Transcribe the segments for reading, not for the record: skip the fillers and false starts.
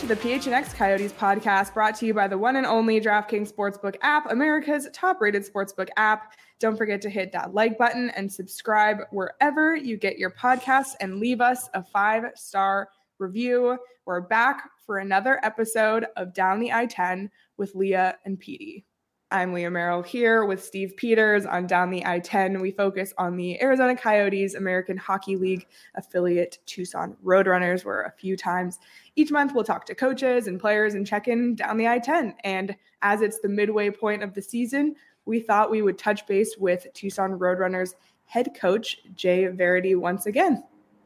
to the PHNX Coyotes podcast, brought to you by the one and only DraftKings Sportsbook app, America's top-rated sportsbook app. Don't forget to hit that like button and subscribe wherever you get your podcasts and leave us a 5-star review. We're back for another episode of Down the I-10 with Leah and Petey. I'm Leah Merrill here with Steve Peters on Down the I-10. We focus on the Arizona Coyotes American Hockey League affiliate Tucson Roadrunners, where a few times each month we'll talk to coaches and players and check in down the I-10. And as it's the midway point of the season, we thought we would touch base with Tucson Roadrunners head coach Jay Verity once again.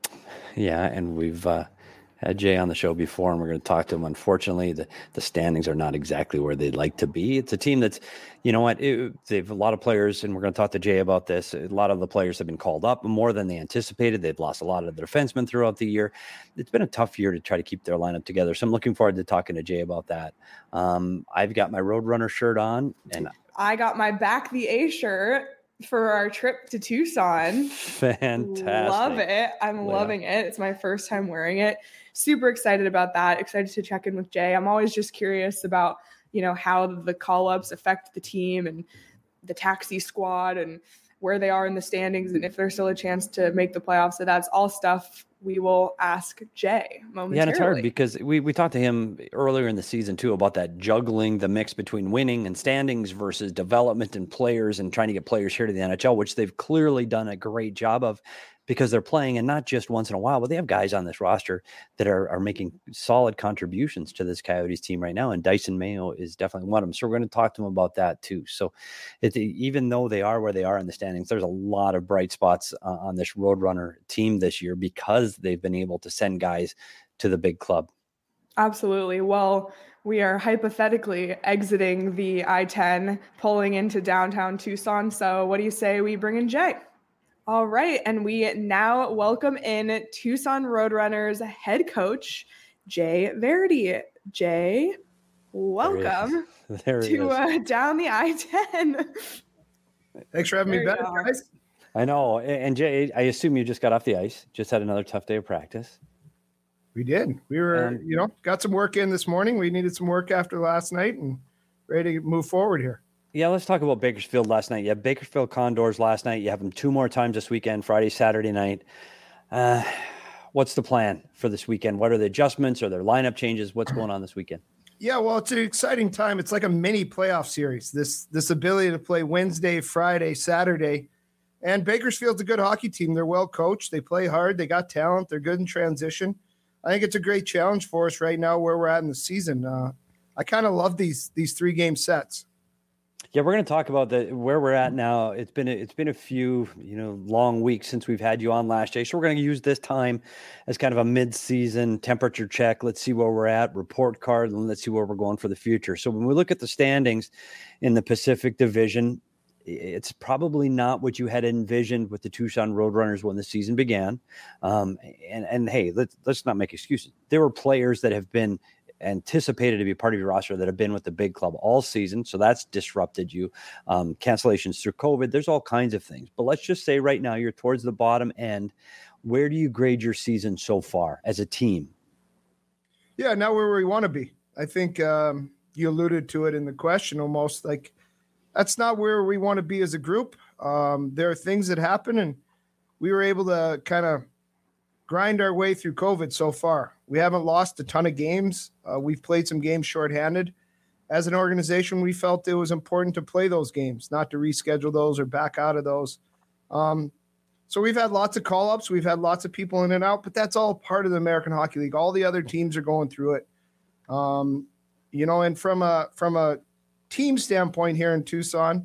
Yeah, and we've had Jay on the show before, and we're going to talk to him. Unfortunately, the standings are not exactly where they'd like to be. It's a team that's, you know what, they've a lot of players, and we're going to talk to Jay about this. A lot of the players have been called up more than they anticipated. They've lost a lot of the defensemen throughout the year. It's been a tough year to try to keep their lineup together. So I'm looking forward to talking to Jay about that. I've got my Roadrunner shirt on, and I got my Back the A shirt for our trip to Tucson. Fantastic. Love it. I'm loving it. It's my first time wearing it. Super excited about that. Excited to check in with Jay. I'm always just curious about, you know, how the call-ups affect the team and the taxi squad and where they are in the standings and if there's still a chance to make the playoffs. So that's all stuff we will ask Jay momentarily. Yeah, and it's hard because we talked to him earlier in the season too about that juggling the mix between winning and standings versus development and players and trying to get players here to the NHL, which they've clearly done a great job of because they're playing, and not just once in a while, but they have guys on this roster that are making solid contributions to this Coyotes team right now. And Dyson Mayo is definitely one of them. So we're going to talk to him about that too. So even though they are where they are in the standings, there's a lot of bright spots on this Roadrunner team this year because they've been able to send guys to the big club. Absolutely. Well, we are hypothetically exiting the I-10, pulling into downtown Tucson. So what do you say we bring in Jay? All right, and we now welcome in Tucson Roadrunners head coach, Jay Verity. Jay, welcome to Down the I-10. Thanks for having me back, guys. I know. And Jay, I assume you just got off the ice, just had another tough day of practice. We did. We were, got some work in this morning. We needed some work after last night and ready to move forward here. Yeah, let's talk about Bakersfield last night. You have Bakersfield Condors last night. You have them 2 more times this weekend, Friday, Saturday night. What's the plan for this weekend? What are the adjustments? Are there lineup changes? What's going on this weekend? Yeah, well, it's an exciting time. It's like a mini playoff series. This ability to play Wednesday, Friday, Saturday. And Bakersfield's a good hockey team. They're well coached. They play hard. They got talent. They're good in transition. I think it's a great challenge for us right now where we're at in the season. I kind of love these 3-game sets. Yeah, we're going to talk about where we're at now. It's been a few long weeks since we've had you on last day, so we're going to use this time as kind of a mid-season temperature check. Let's see where we're at, report card, and let's see where we're going for the future. So when we look at the standings in the Pacific Division, it's probably not what you had envisioned with the Tucson Roadrunners when the season began. And hey, let's not make excuses. There were players that have been anticipated to be part of your roster that have been with the big club all season. So that's disrupted you. Cancellations through COVID. There's all kinds of things. But let's just say right now you're towards the bottom end. Where do you grade your season so far as a team? Yeah, now where we want to be. I think you alluded to it in the question almost. Like, that's not where we want to be as a group. There are things that happen, and we were able to kind of grind our way through COVID so far. We haven't lost a ton of games. We've played some games shorthanded. As an organization, we felt it was important to play those games, not to reschedule those or back out of those. So we've had lots of call-ups. We've had lots of people in and out, but that's all part of the American Hockey League. All the other teams are going through it. And from a team standpoint here in Tucson,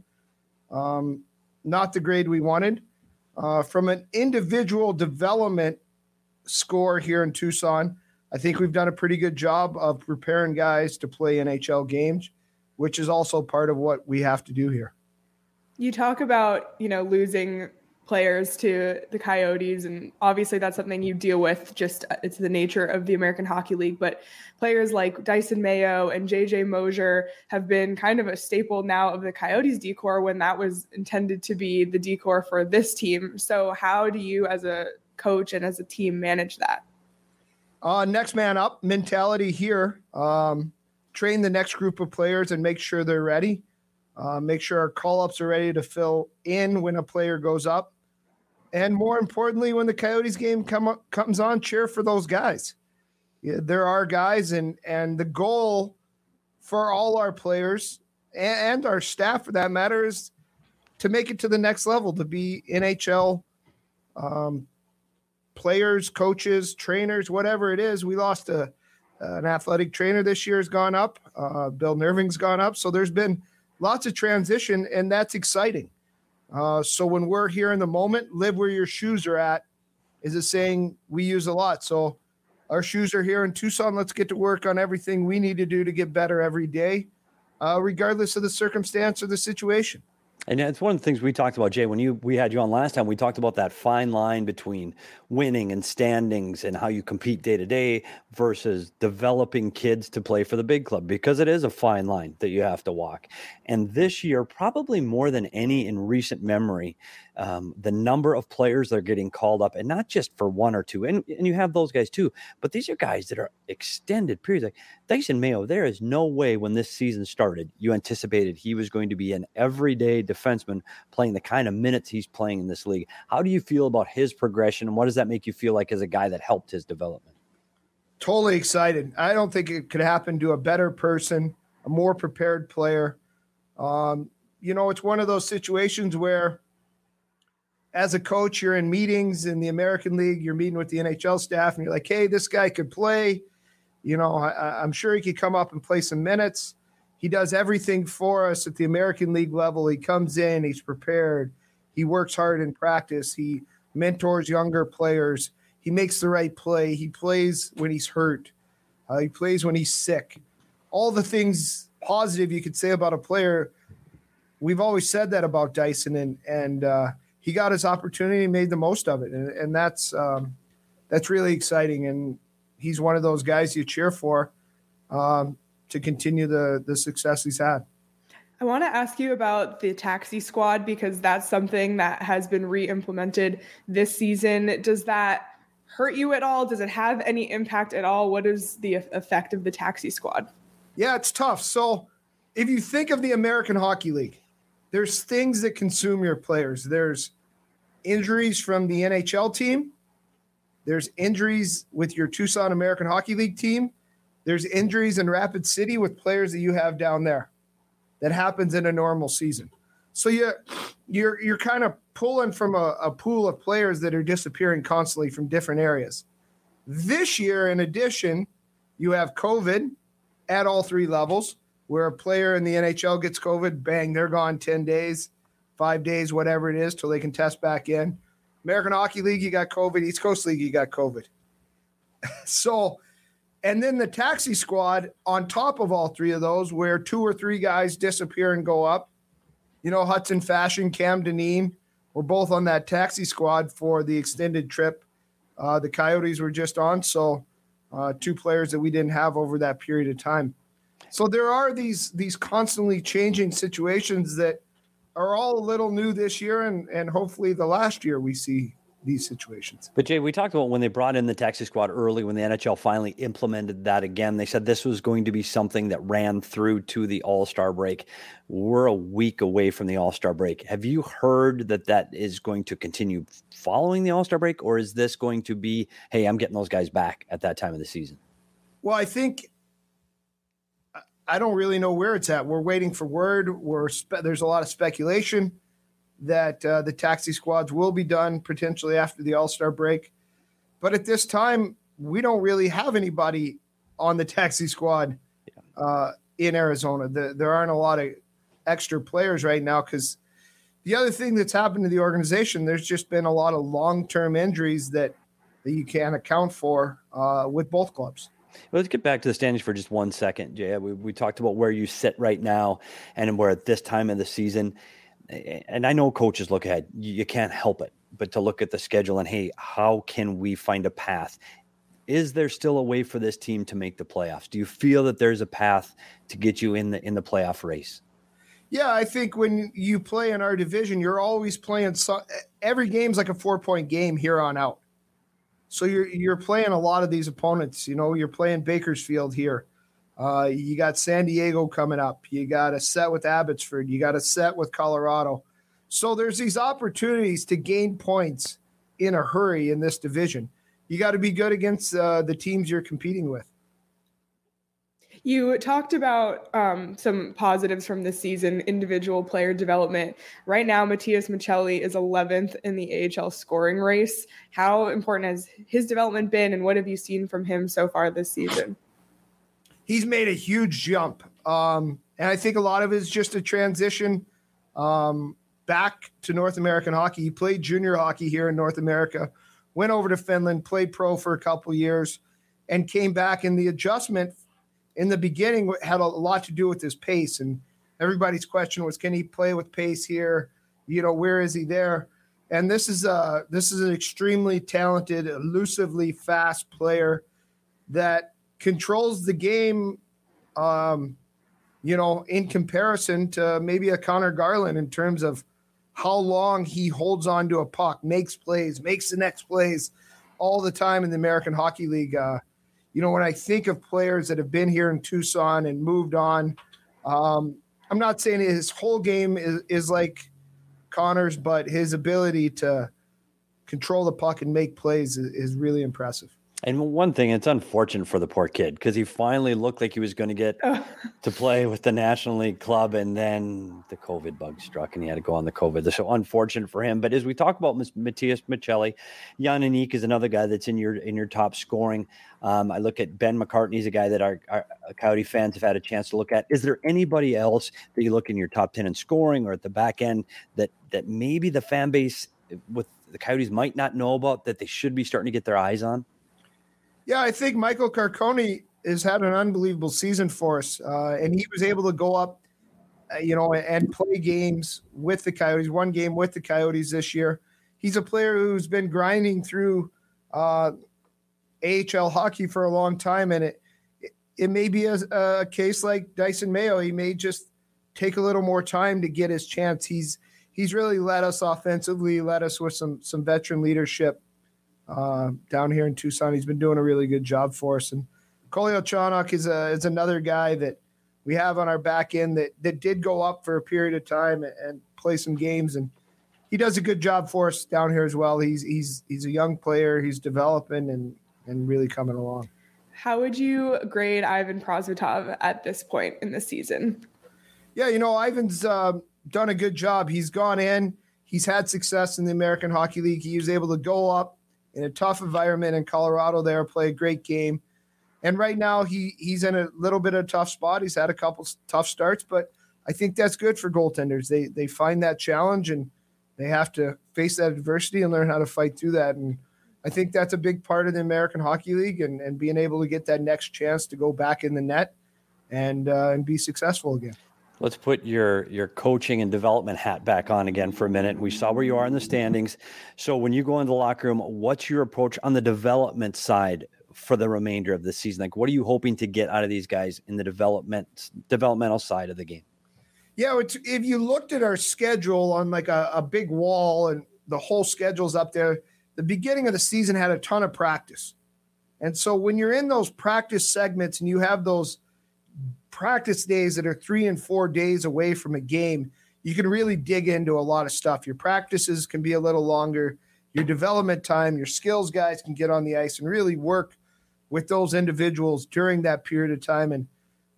not the grade we wanted. From an individual development score here in Tucson, I think we've done a pretty good job of preparing guys to play NHL games, which is also part of what we have to do here. You talk about, losing players to the Coyotes, and obviously that's something you deal with, just it's the nature of the American Hockey League, but players like Dyson Mayo and JJ Mosier have been kind of a staple now of the Coyotes decor when that was intended to be the decor for this team. So how do you as a coach and as a team manage that? Next man up mentality here. Train the next group of players and make sure they're ready. Make sure our call-ups are ready to fill in when a player goes up. And more importantly, when the Coyotes game comes on, cheer for those guys. Yeah, there are guys, and the goal for all our players and our staff, for that matter, is to make it to the next level, to be NHL players, coaches, trainers, whatever it is. We lost an athletic trainer this year has gone up. Bill Nerving's gone up. So there's been lots of transition, and that's exciting. So when we're here in the moment, live where your shoes are at is a saying we use a lot. So our shoes are here in Tucson. Let's get to work on everything we need to do to get better every day, regardless of the circumstance or the situation. And it's one of the things we talked about, Jay, when we had you on last time. We talked about that fine line between winning and standings and how you compete day to day versus developing kids to play for the big club, because it is a fine line that you have to walk. And this year, probably more than any in recent memory, the number of players that are getting called up, and not just for one or two, and you have those guys too, but these are guys that are extended periods. Like Dyson Mayo, there is no way when this season started you anticipated he was going to be an everyday defenseman playing the kind of minutes he's playing in this league. How do you feel about his progression, and what does that make you feel like as a guy that helped his development? Totally excited. I don't think it could happen to a better person, a more prepared player. It's one of those situations where as a coach, you're in meetings in the American League, you're meeting with the NHL staff, and you're like, hey, this guy could play. I'm sure he could come up and play some minutes. He does everything for us at the American League level. He comes in, he's prepared. He works hard in practice. He mentors younger players. He makes the right play. He plays when he's hurt. He plays when he's sick. All the things positive you could say about a player, we've always said that about Dyson, and he got his opportunity and made the most of it. And that's really exciting. And he's one of those guys you cheer for to continue the success he's had. I want to ask you about the taxi squad, because that's something that has been re-implemented this season. Does that hurt you at all? Does it have any impact at all? What is the effect of the taxi squad? Yeah, it's tough. So if you think of the American Hockey League, there's things that consume your players. There's injuries from the NHL team. There's injuries with your Tucson American Hockey League team. There's injuries in Rapid City with players that you have down there. That happens in a normal season. So you're kind of pulling from a pool of players that are disappearing constantly from different areas. This year, in addition, you have COVID at all three levels, where a player in the NHL gets COVID, bang, they're gone 10 days, 5 days, whatever it is, till they can test back in. American Hockey League, you got COVID. East Coast League, you got COVID. So, and then the taxi squad on top of all three of those, where 2 or 3 guys disappear and go up. Hudson Fashion, Cam Dineen were both on that taxi squad for the extended trip the Coyotes were just on. So 2 players that we didn't have over that period of time. So there are these constantly changing situations that are all a little new this year, and hopefully the last year we see these situations. But Jay, we talked about when they brought in the taxi squad early, when the NHL finally implemented that again, they said this was going to be something that ran through to the All-Star break. We're a week away from the All-Star break. Have you heard that is going to continue following the All-Star break, or is this going to be, hey, I'm getting those guys back at that time of the season? Well, I think I don't really know where it's at. We're waiting for word. There's a lot of speculation that the taxi squads will be done potentially after the All-Star break. But at this time, we don't really have anybody on the taxi squad in Arizona. There aren't a lot of extra players right now, because the other thing that's happened to the organization, there's just been a lot of long-term injuries that you can't account for with both clubs. Well, let's get back to the standings for just 1 second, Jay. We talked about where you sit right now and where at this time of the season. And I know coaches look ahead. You can't help it but to look at the schedule and, hey, how can we find a path? Is there still a way for this team to make the playoffs? Do you feel that there's a path to get you in the playoff race? Yeah, I think when you play in our division, you're always playing every game's like a 4-point game here on out. So you're playing a lot of these opponents. You're playing Bakersfield here. You got San Diego coming up. You got a set with Abbotsford. You got a set with Colorado. So there's these opportunities to gain points in a hurry in this division. You got to be good against the teams you're competing with. You talked about some positives from this season, individual player development. Right now, Matias Michelli is 11th in the AHL scoring race. How important has his development been, and what have you seen from him so far this season? He's made a huge jump. And I think a lot of it is just a transition back to North American hockey. He played junior hockey here in North America, went over to Finland, played pro for a couple years, and came back. And the adjustment in the beginning had a lot to do with his pace. And everybody's question was, can he play with pace here? Where is he there? And this is an extremely talented, elusively fast player that controls the game, in comparison to maybe a Connor Garland in terms of how long he holds on to a puck, makes plays, makes the next plays all the time in the American Hockey League. When I think of players that have been here in Tucson and moved on, I'm not saying his whole game is like Connor's, but his ability to control the puck and make plays is really impressive. And one thing, it's unfortunate for the poor kid because he finally looked like he was going to get to play with the National League club, and then the COVID bug struck and he had to go on the COVID. So unfortunate for him. But as we talk about Matias Michelli, Jan Anik is another guy that's in your top scoring. I look at Ben McCartney. He's a guy that our Coyote fans have had a chance to look at. Is there anybody else that you look in your top 10 in scoring or at the back end that maybe the fan base with the Coyotes might not know about that they should be starting to get their eyes on? Yeah, I think Michael Carcone has had an unbelievable season for us, and he was able to go up, and play games with the Coyotes. One game with the Coyotes this year. He's a player who's been grinding through AHL hockey for a long time, and it may be a case like Dyson Mayo. He may just take a little more time to get his chance. He's really led us offensively, led us with some veteran leadership. Down here in Tucson, he's been doing a really good job for us. And Kolyachonok is another guy that we have on our back end that did go up for a period of time and play some games, and he does a good job for us down here as well. He's a young player, he's developing and really coming along. How would you grade Ivan Prosvetov at this point in the season? Yeah, Ivan's done a good job. He's gone in, he's had success in the American Hockey League. He was able to go up in a tough environment in Colorado there, play a great game. And right now he's in a little bit of a tough spot. He's had a couple tough starts, but I think that's good for goaltenders. They find that challenge and they have to face that adversity and learn how to fight through that. And I think that's a big part of the American Hockey League and being able to get that next chance to go back in the net and be successful again. Let's put your coaching and development hat back on again for a minute. We saw where you are in the standings. So when you go into the locker room, what's your approach on the development side for the remainder of the season? Like, what are you hoping to get out of these guys in the developmental side of the game? Yeah, if you looked at our schedule on like a big wall and the whole schedule's up there, the beginning of the season had a ton of practice. And so when you're in those practice segments and you have those practice days that are 3 and 4 days away from a game, you can really dig into a lot of stuff. Your practices can be a little longer. Your development time, your skills guys can get on the ice and really work with those individuals during that period of time. And,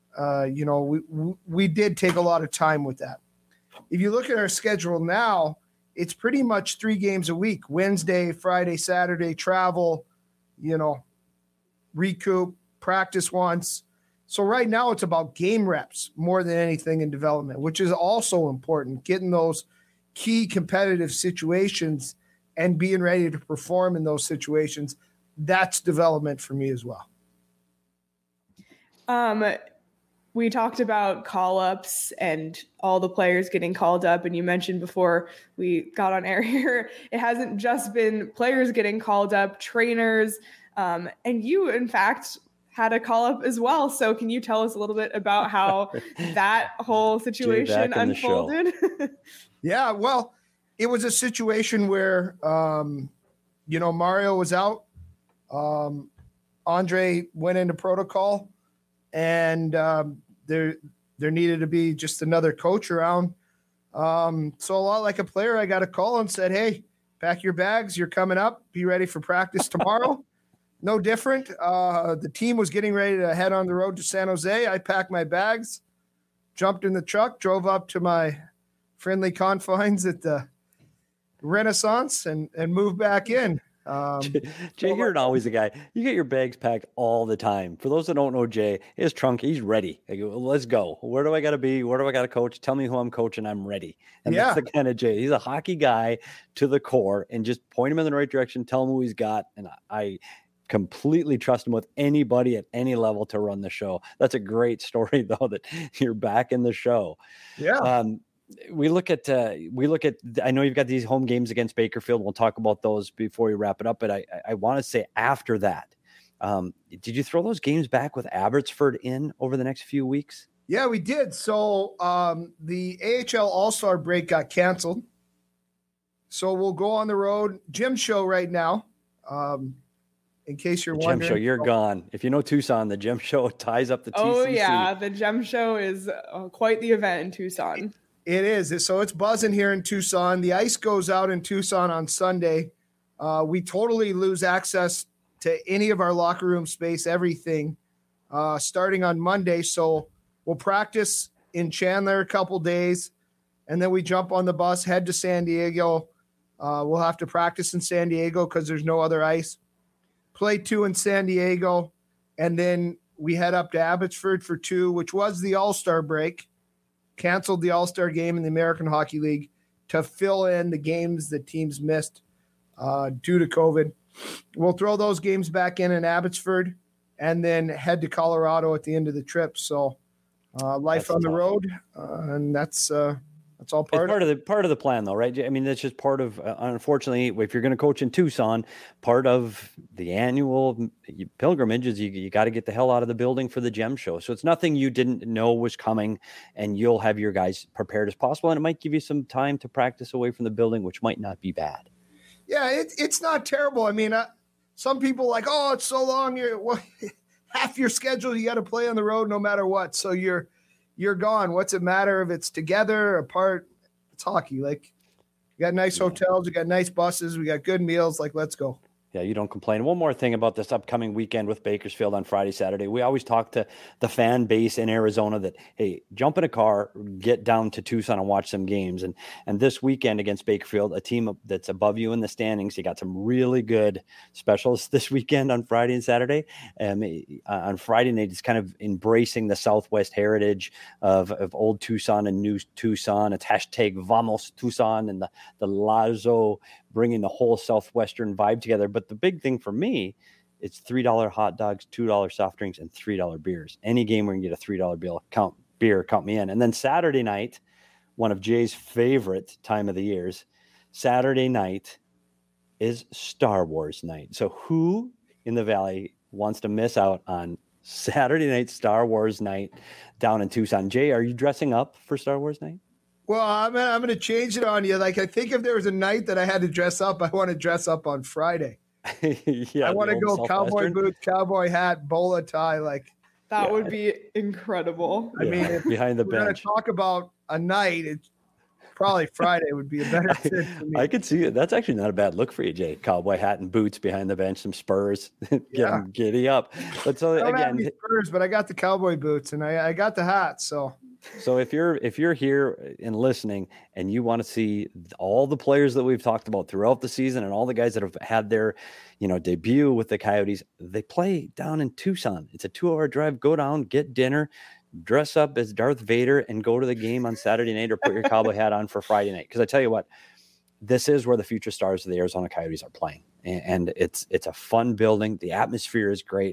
we did take a lot of time with that. If you look at our schedule now, it's pretty much 3 games a week: Wednesday, Friday, Saturday, travel, recoup, practice once. So right now it's about game reps more than anything in development, which is also important, getting those key competitive situations and being ready to perform in those situations. That's development for me as well. We talked about call-ups and all the players getting called up, and you mentioned before we got on air here, it hasn't just been players getting called up, trainers, and you, in fact, had a call-up as well. So can you tell us a little bit about how that whole situation unfolded? Yeah, well, it was a situation where, Mario was out Andre went into protocol, and there needed to be just another coach around. So a lot like a player, I got a call and said, "Hey, pack your bags. You're coming up. Be ready for practice tomorrow." No different. The team was getting ready to head on the road to San Jose. I packed my bags, jumped in the truck, drove up to my friendly confines at the Renaissance, and moved back in. Jay, you're always a guy. You get your bags packed all the time. For those that don't know Jay, his trunk, he's ready. Like, let's go. Where do I got to be? Where do I got to coach? Tell me who I'm coaching. I'm ready. And that's the kind of Jay. He's a hockey guy to the core, and just point him in the right direction. Tell him who he's got. And I completely trust him with anybody at any level to run the show. That's a great story, though, that you're back in the show. Yeah. We look at, I know you've got these home games against Bakersfield. We'll talk about those before we wrap it up. But I want to say after that, did you throw those games back with Abbotsford in over the next few weeks? Yeah, we did. So the AHL All-Star break got canceled. So we'll go on the road. Gym show right now. In case you're wondering. Gym show, you're gone. If you know Tucson, the gym show ties up the TCC. Oh, yeah. The gym show is quite the event in Tucson. It is. So it's buzzing here in Tucson. The ice goes out in Tucson on Sunday. We totally lose access to any of our locker room space, everything, starting on Monday. So we'll practice in Chandler a couple days, and then we jump on the bus, head to San Diego. We'll have to practice in San Diego because there's no other ice. Play 2 in San Diego, and then we head up to Abbotsford for 2, which was the All-Star break. Canceled the All-Star game in the American Hockey League to fill in the games that teams missed due to COVID. We'll throw those games back in Abbotsford and then head to Colorado at the end of the trip. So life on the road, and that's all part of the plan, though, right? I mean, that's just part of. Unfortunately, if you're going to coach in Tucson, part of the annual pilgrimage is you got to get the hell out of the building for the gem show. So it's nothing you didn't know was coming, and you'll have your guys prepared as possible, and it might give you some time to practice away from the building, which might not be bad. Yeah, it's not terrible. I mean, some people like, oh, it's so long. Half your schedule you got to play on the road no matter what. So you're gone. What's it matter if it's together, apart? It's hockey. Like, you got nice hotels, you got nice buses, we got good meals. Like, let's go. Yeah, you don't complain. One more thing about this upcoming weekend with Bakersfield on Friday, Saturday. We always talk to the fan base in Arizona that, hey, jump in a car, get down to Tucson and watch some games. And this weekend against Bakersfield, a team that's above you in the standings, you got some really good specials this weekend on Friday and Saturday. On Friday night, it's kind of embracing the Southwest heritage of old Tucson and new Tucson. It's hashtag Vamos Tucson and the Lazo, bringing the whole Southwestern vibe together. But the big thing for me, it's $3 hot dogs, $2 soft drinks, and $3 beers. Any game where you can get a $3 bill, count me in. And then Saturday night, one of Jay's favorite time of the years, Saturday night is Star Wars night. So who in the Valley wants to miss out on Saturday night Star Wars night down in Tucson? Jay, are you dressing up for Star Wars night? Well, I'm going to change it on you. Like, I think if there was a night that I had to dress up, I want to dress up on Friday. I want to go cowboy boots, cowboy hat, bowler tie. Like, that would be incredible. I mean, behind the bench. We're going to talk about a night. It's probably Friday would be a better fit for me. I could see it. That's actually not a bad look for you, Jay. Cowboy hat and boots behind the bench, some Spurs, them giddy up. But so I don't again, have any Spurs, but I got the cowboy boots and I got the hat. So if you're here and listening and you want to see all the players that we've talked about throughout the season and all the guys that have had their, debut with the Coyotes, they play down in Tucson. It's a 2-hour drive. Go down, get dinner, dress up as Darth Vader, and go to the game on Saturday night, or put your cowboy hat on for Friday night. Because I tell you what, this is where the future stars of the Arizona Coyotes are playing, and it's a fun building. The atmosphere is great.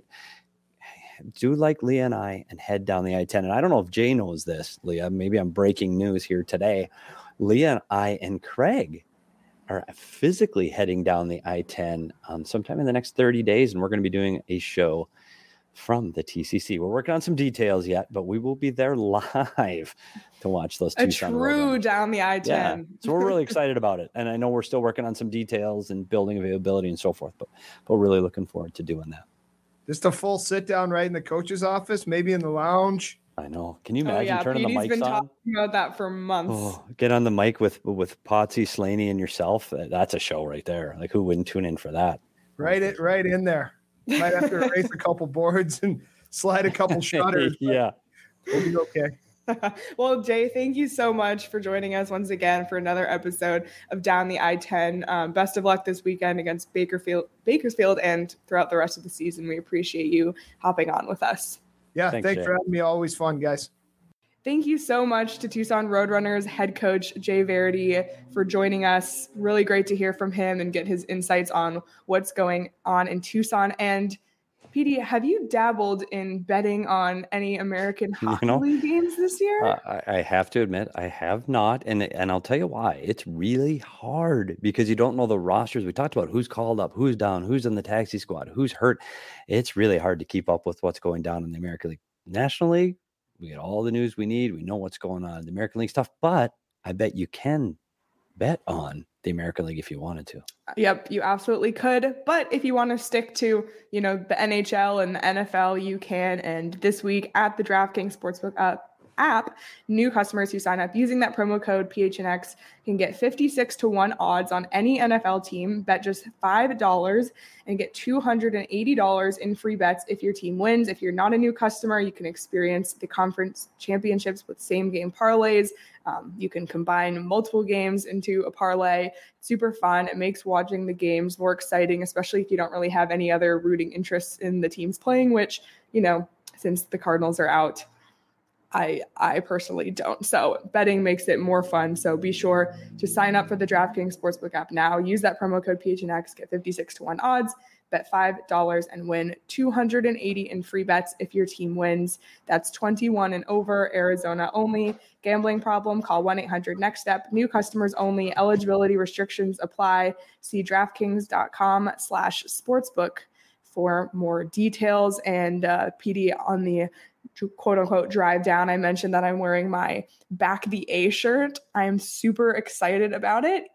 Do like Leah and I and head down the I-10. And I don't know if Jay knows this, Leah. Maybe I'm breaking news here today. Leah and I and Craig are physically heading down the I-10 sometime in the next 30 days, and we're going to be doing a show from the TCC. We're working on some details yet, but we will be there live to watch those a Tucson true down the I-10. Yeah. So we're really excited about it. And I know we're still working on some details and building availability and so forth, but we're really looking forward to doing that. Just a full sit down right in the coach's office, maybe in the lounge. I know. Can you imagine turning the mics been on? Talking about that for months. Oh, get on the mic with Potsy, Slaney, and yourself. That's a show right there. Like, who wouldn't tune in for that? Right in there. Might have to erase a couple boards and slide a couple shutters. Yeah. We'll be okay. Well, Jay, thank you so much for joining us once again for another episode of Down the I-10. Best of luck this weekend against Bakersfield and throughout the rest of the season. We appreciate you hopping on with us. Yeah, thanks for having me. Always fun, guys. Thank you so much to Tucson Roadrunners head coach Jay Verity for joining us. Really great to hear from him and get his insights on what's going on in Tucson. And PD, have you dabbled in betting on any American Hockey League games this year? I have to admit, I have not. And I'll tell you why. It's really hard because you don't know the rosters. We talked about who's called up, who's down, who's in the taxi squad, who's hurt. It's really hard to keep up with what's going down in the American League. National League, we get all the news we need. We know what's going on in the American League stuff, but I bet you can bet on the American League if you wanted to. Yep, you absolutely could. But if you want to stick to, the NHL and the NFL, you can. And this week at the DraftKings Sportsbook app, new customers who sign up using that promo code PHNX can get 56-1 odds on any NFL team. Bet just $5 and get $280 in free bets if your team wins. If you're not a new customer, you can experience the conference championships with same game parlays. You can combine multiple games into a parlay. Super fun. It makes watching the games more exciting, especially if you don't really have any other rooting interests in the teams playing, which, since the Cardinals are out, I personally don't. So betting makes it more fun. So be sure to sign up for the DraftKings Sportsbook app now. Use that promo code PHNX, get 56-1 odds, bet $5 and win $280 in free bets if your team wins. That's 21 and over, Arizona only. Gambling problem? Call 1-800-NEXT-STEP. New customers only. Eligibility restrictions apply. See DraftKings.com/sportsbook for more details. And PD, on the quote unquote drive down, I mentioned that I'm wearing my Back the A shirt. I'm super excited about it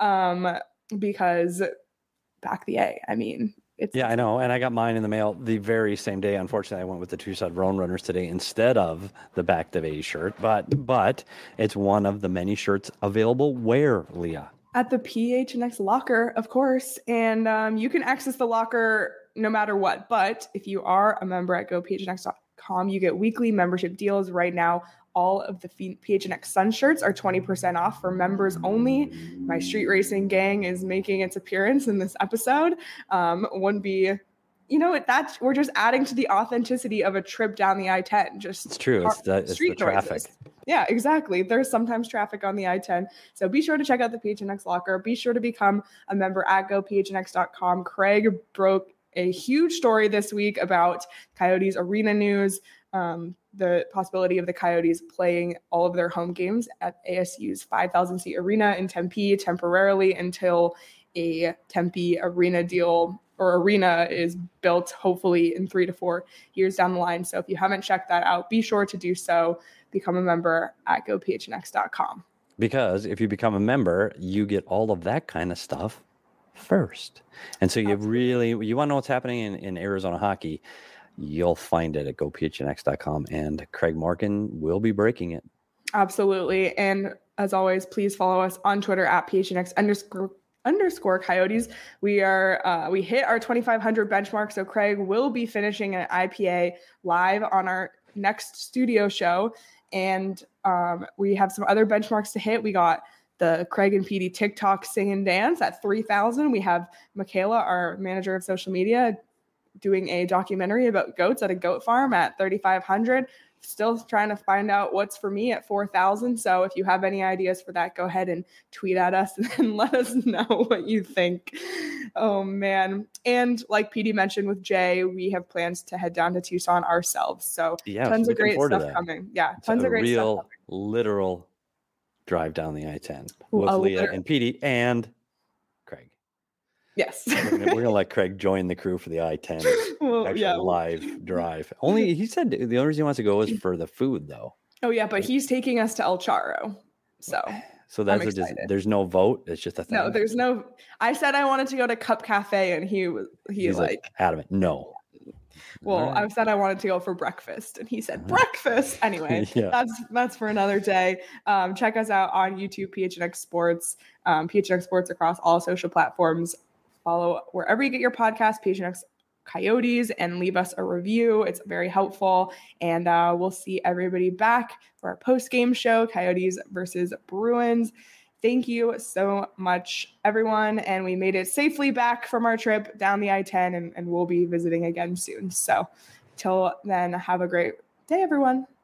because Back the A, I know. And I got mine in the mail the very same day. Unfortunately, I went with the Tucson Roadrunners today instead of the Back the A shirt, but it's one of the many shirts available. Where, Leah? At the PHNX locker, of course. And you can access the locker no matter what. But if you are a member at GoPHNX.com, you get weekly membership deals right now. All of the PHNX Sun shirts are 20% off for members only. My street racing gang is making its appearance in this episode. Wouldn't be, we're just adding to the authenticity of a trip down the I-10. It's true. It's the traffic. Noises. Yeah, exactly. There's sometimes traffic on the I-10. So be sure to check out the PHNX locker. Be sure to become a member at GoPHNX.com. Craig broke a huge story this week about Coyotes arena news. The possibility of the Coyotes playing all of their home games at ASU's 5,000 seat arena in Tempe temporarily until a Tempe arena deal or arena is built, hopefully in 3 to 4 years down the line. So if you haven't checked that out, be sure to do so. Become a member at GoPHNX.com. Because if you become a member, you get all of that kind of stuff first. And so you want to know what's happening in Arizona hockey, you'll find it at GoPHNX.com, and Craig Morgan will be breaking it. Absolutely. And as always, please follow us on Twitter at PHNX_Coyotes. We hit our 2,500 benchmark. So Craig will be finishing an IPA live on our next studio show. And we have some other benchmarks to hit. We got the Craig and PD TikTok sing and dance at 3,000. We have Michaela, our manager of social media, doing a documentary about goats at a goat farm at 3,500. Still trying to find out what's for me at 4,000. So if you have any ideas for that, go ahead and tweet at us and let us know what you think. Oh man. And like PD mentioned with Jay, we have plans to head down to Tucson ourselves. So tons of great stuff coming. Yeah. Tons of great stuff coming. Literal drive down the I-10 with Leah and PD and Craig. Yes. We're gonna let Craig join the crew for the I-10 live drive. Only he said the only reason he wants to go is for the food, though. Oh yeah, but he's taking us to El Charro, so that's there's no vote. It's just a thing. No, there's no. I said I wanted to go to Cup Cafe, and he's like adamant. No. Well, right. I said I wanted to go for breakfast, and he said breakfast. Anyway, that's for another day. Check us out on YouTube, PHNX Sports, PHNX Sports across all social platforms. Follow wherever you get your podcast, PHNX Coyotes, and leave us a review. It's very helpful. And we'll see everybody back for our post-game show, Coyotes versus Bruins. Thank you so much, everyone. And we made it safely back from our trip down the I-10, and we'll be visiting again soon. So till then, have a great day, everyone.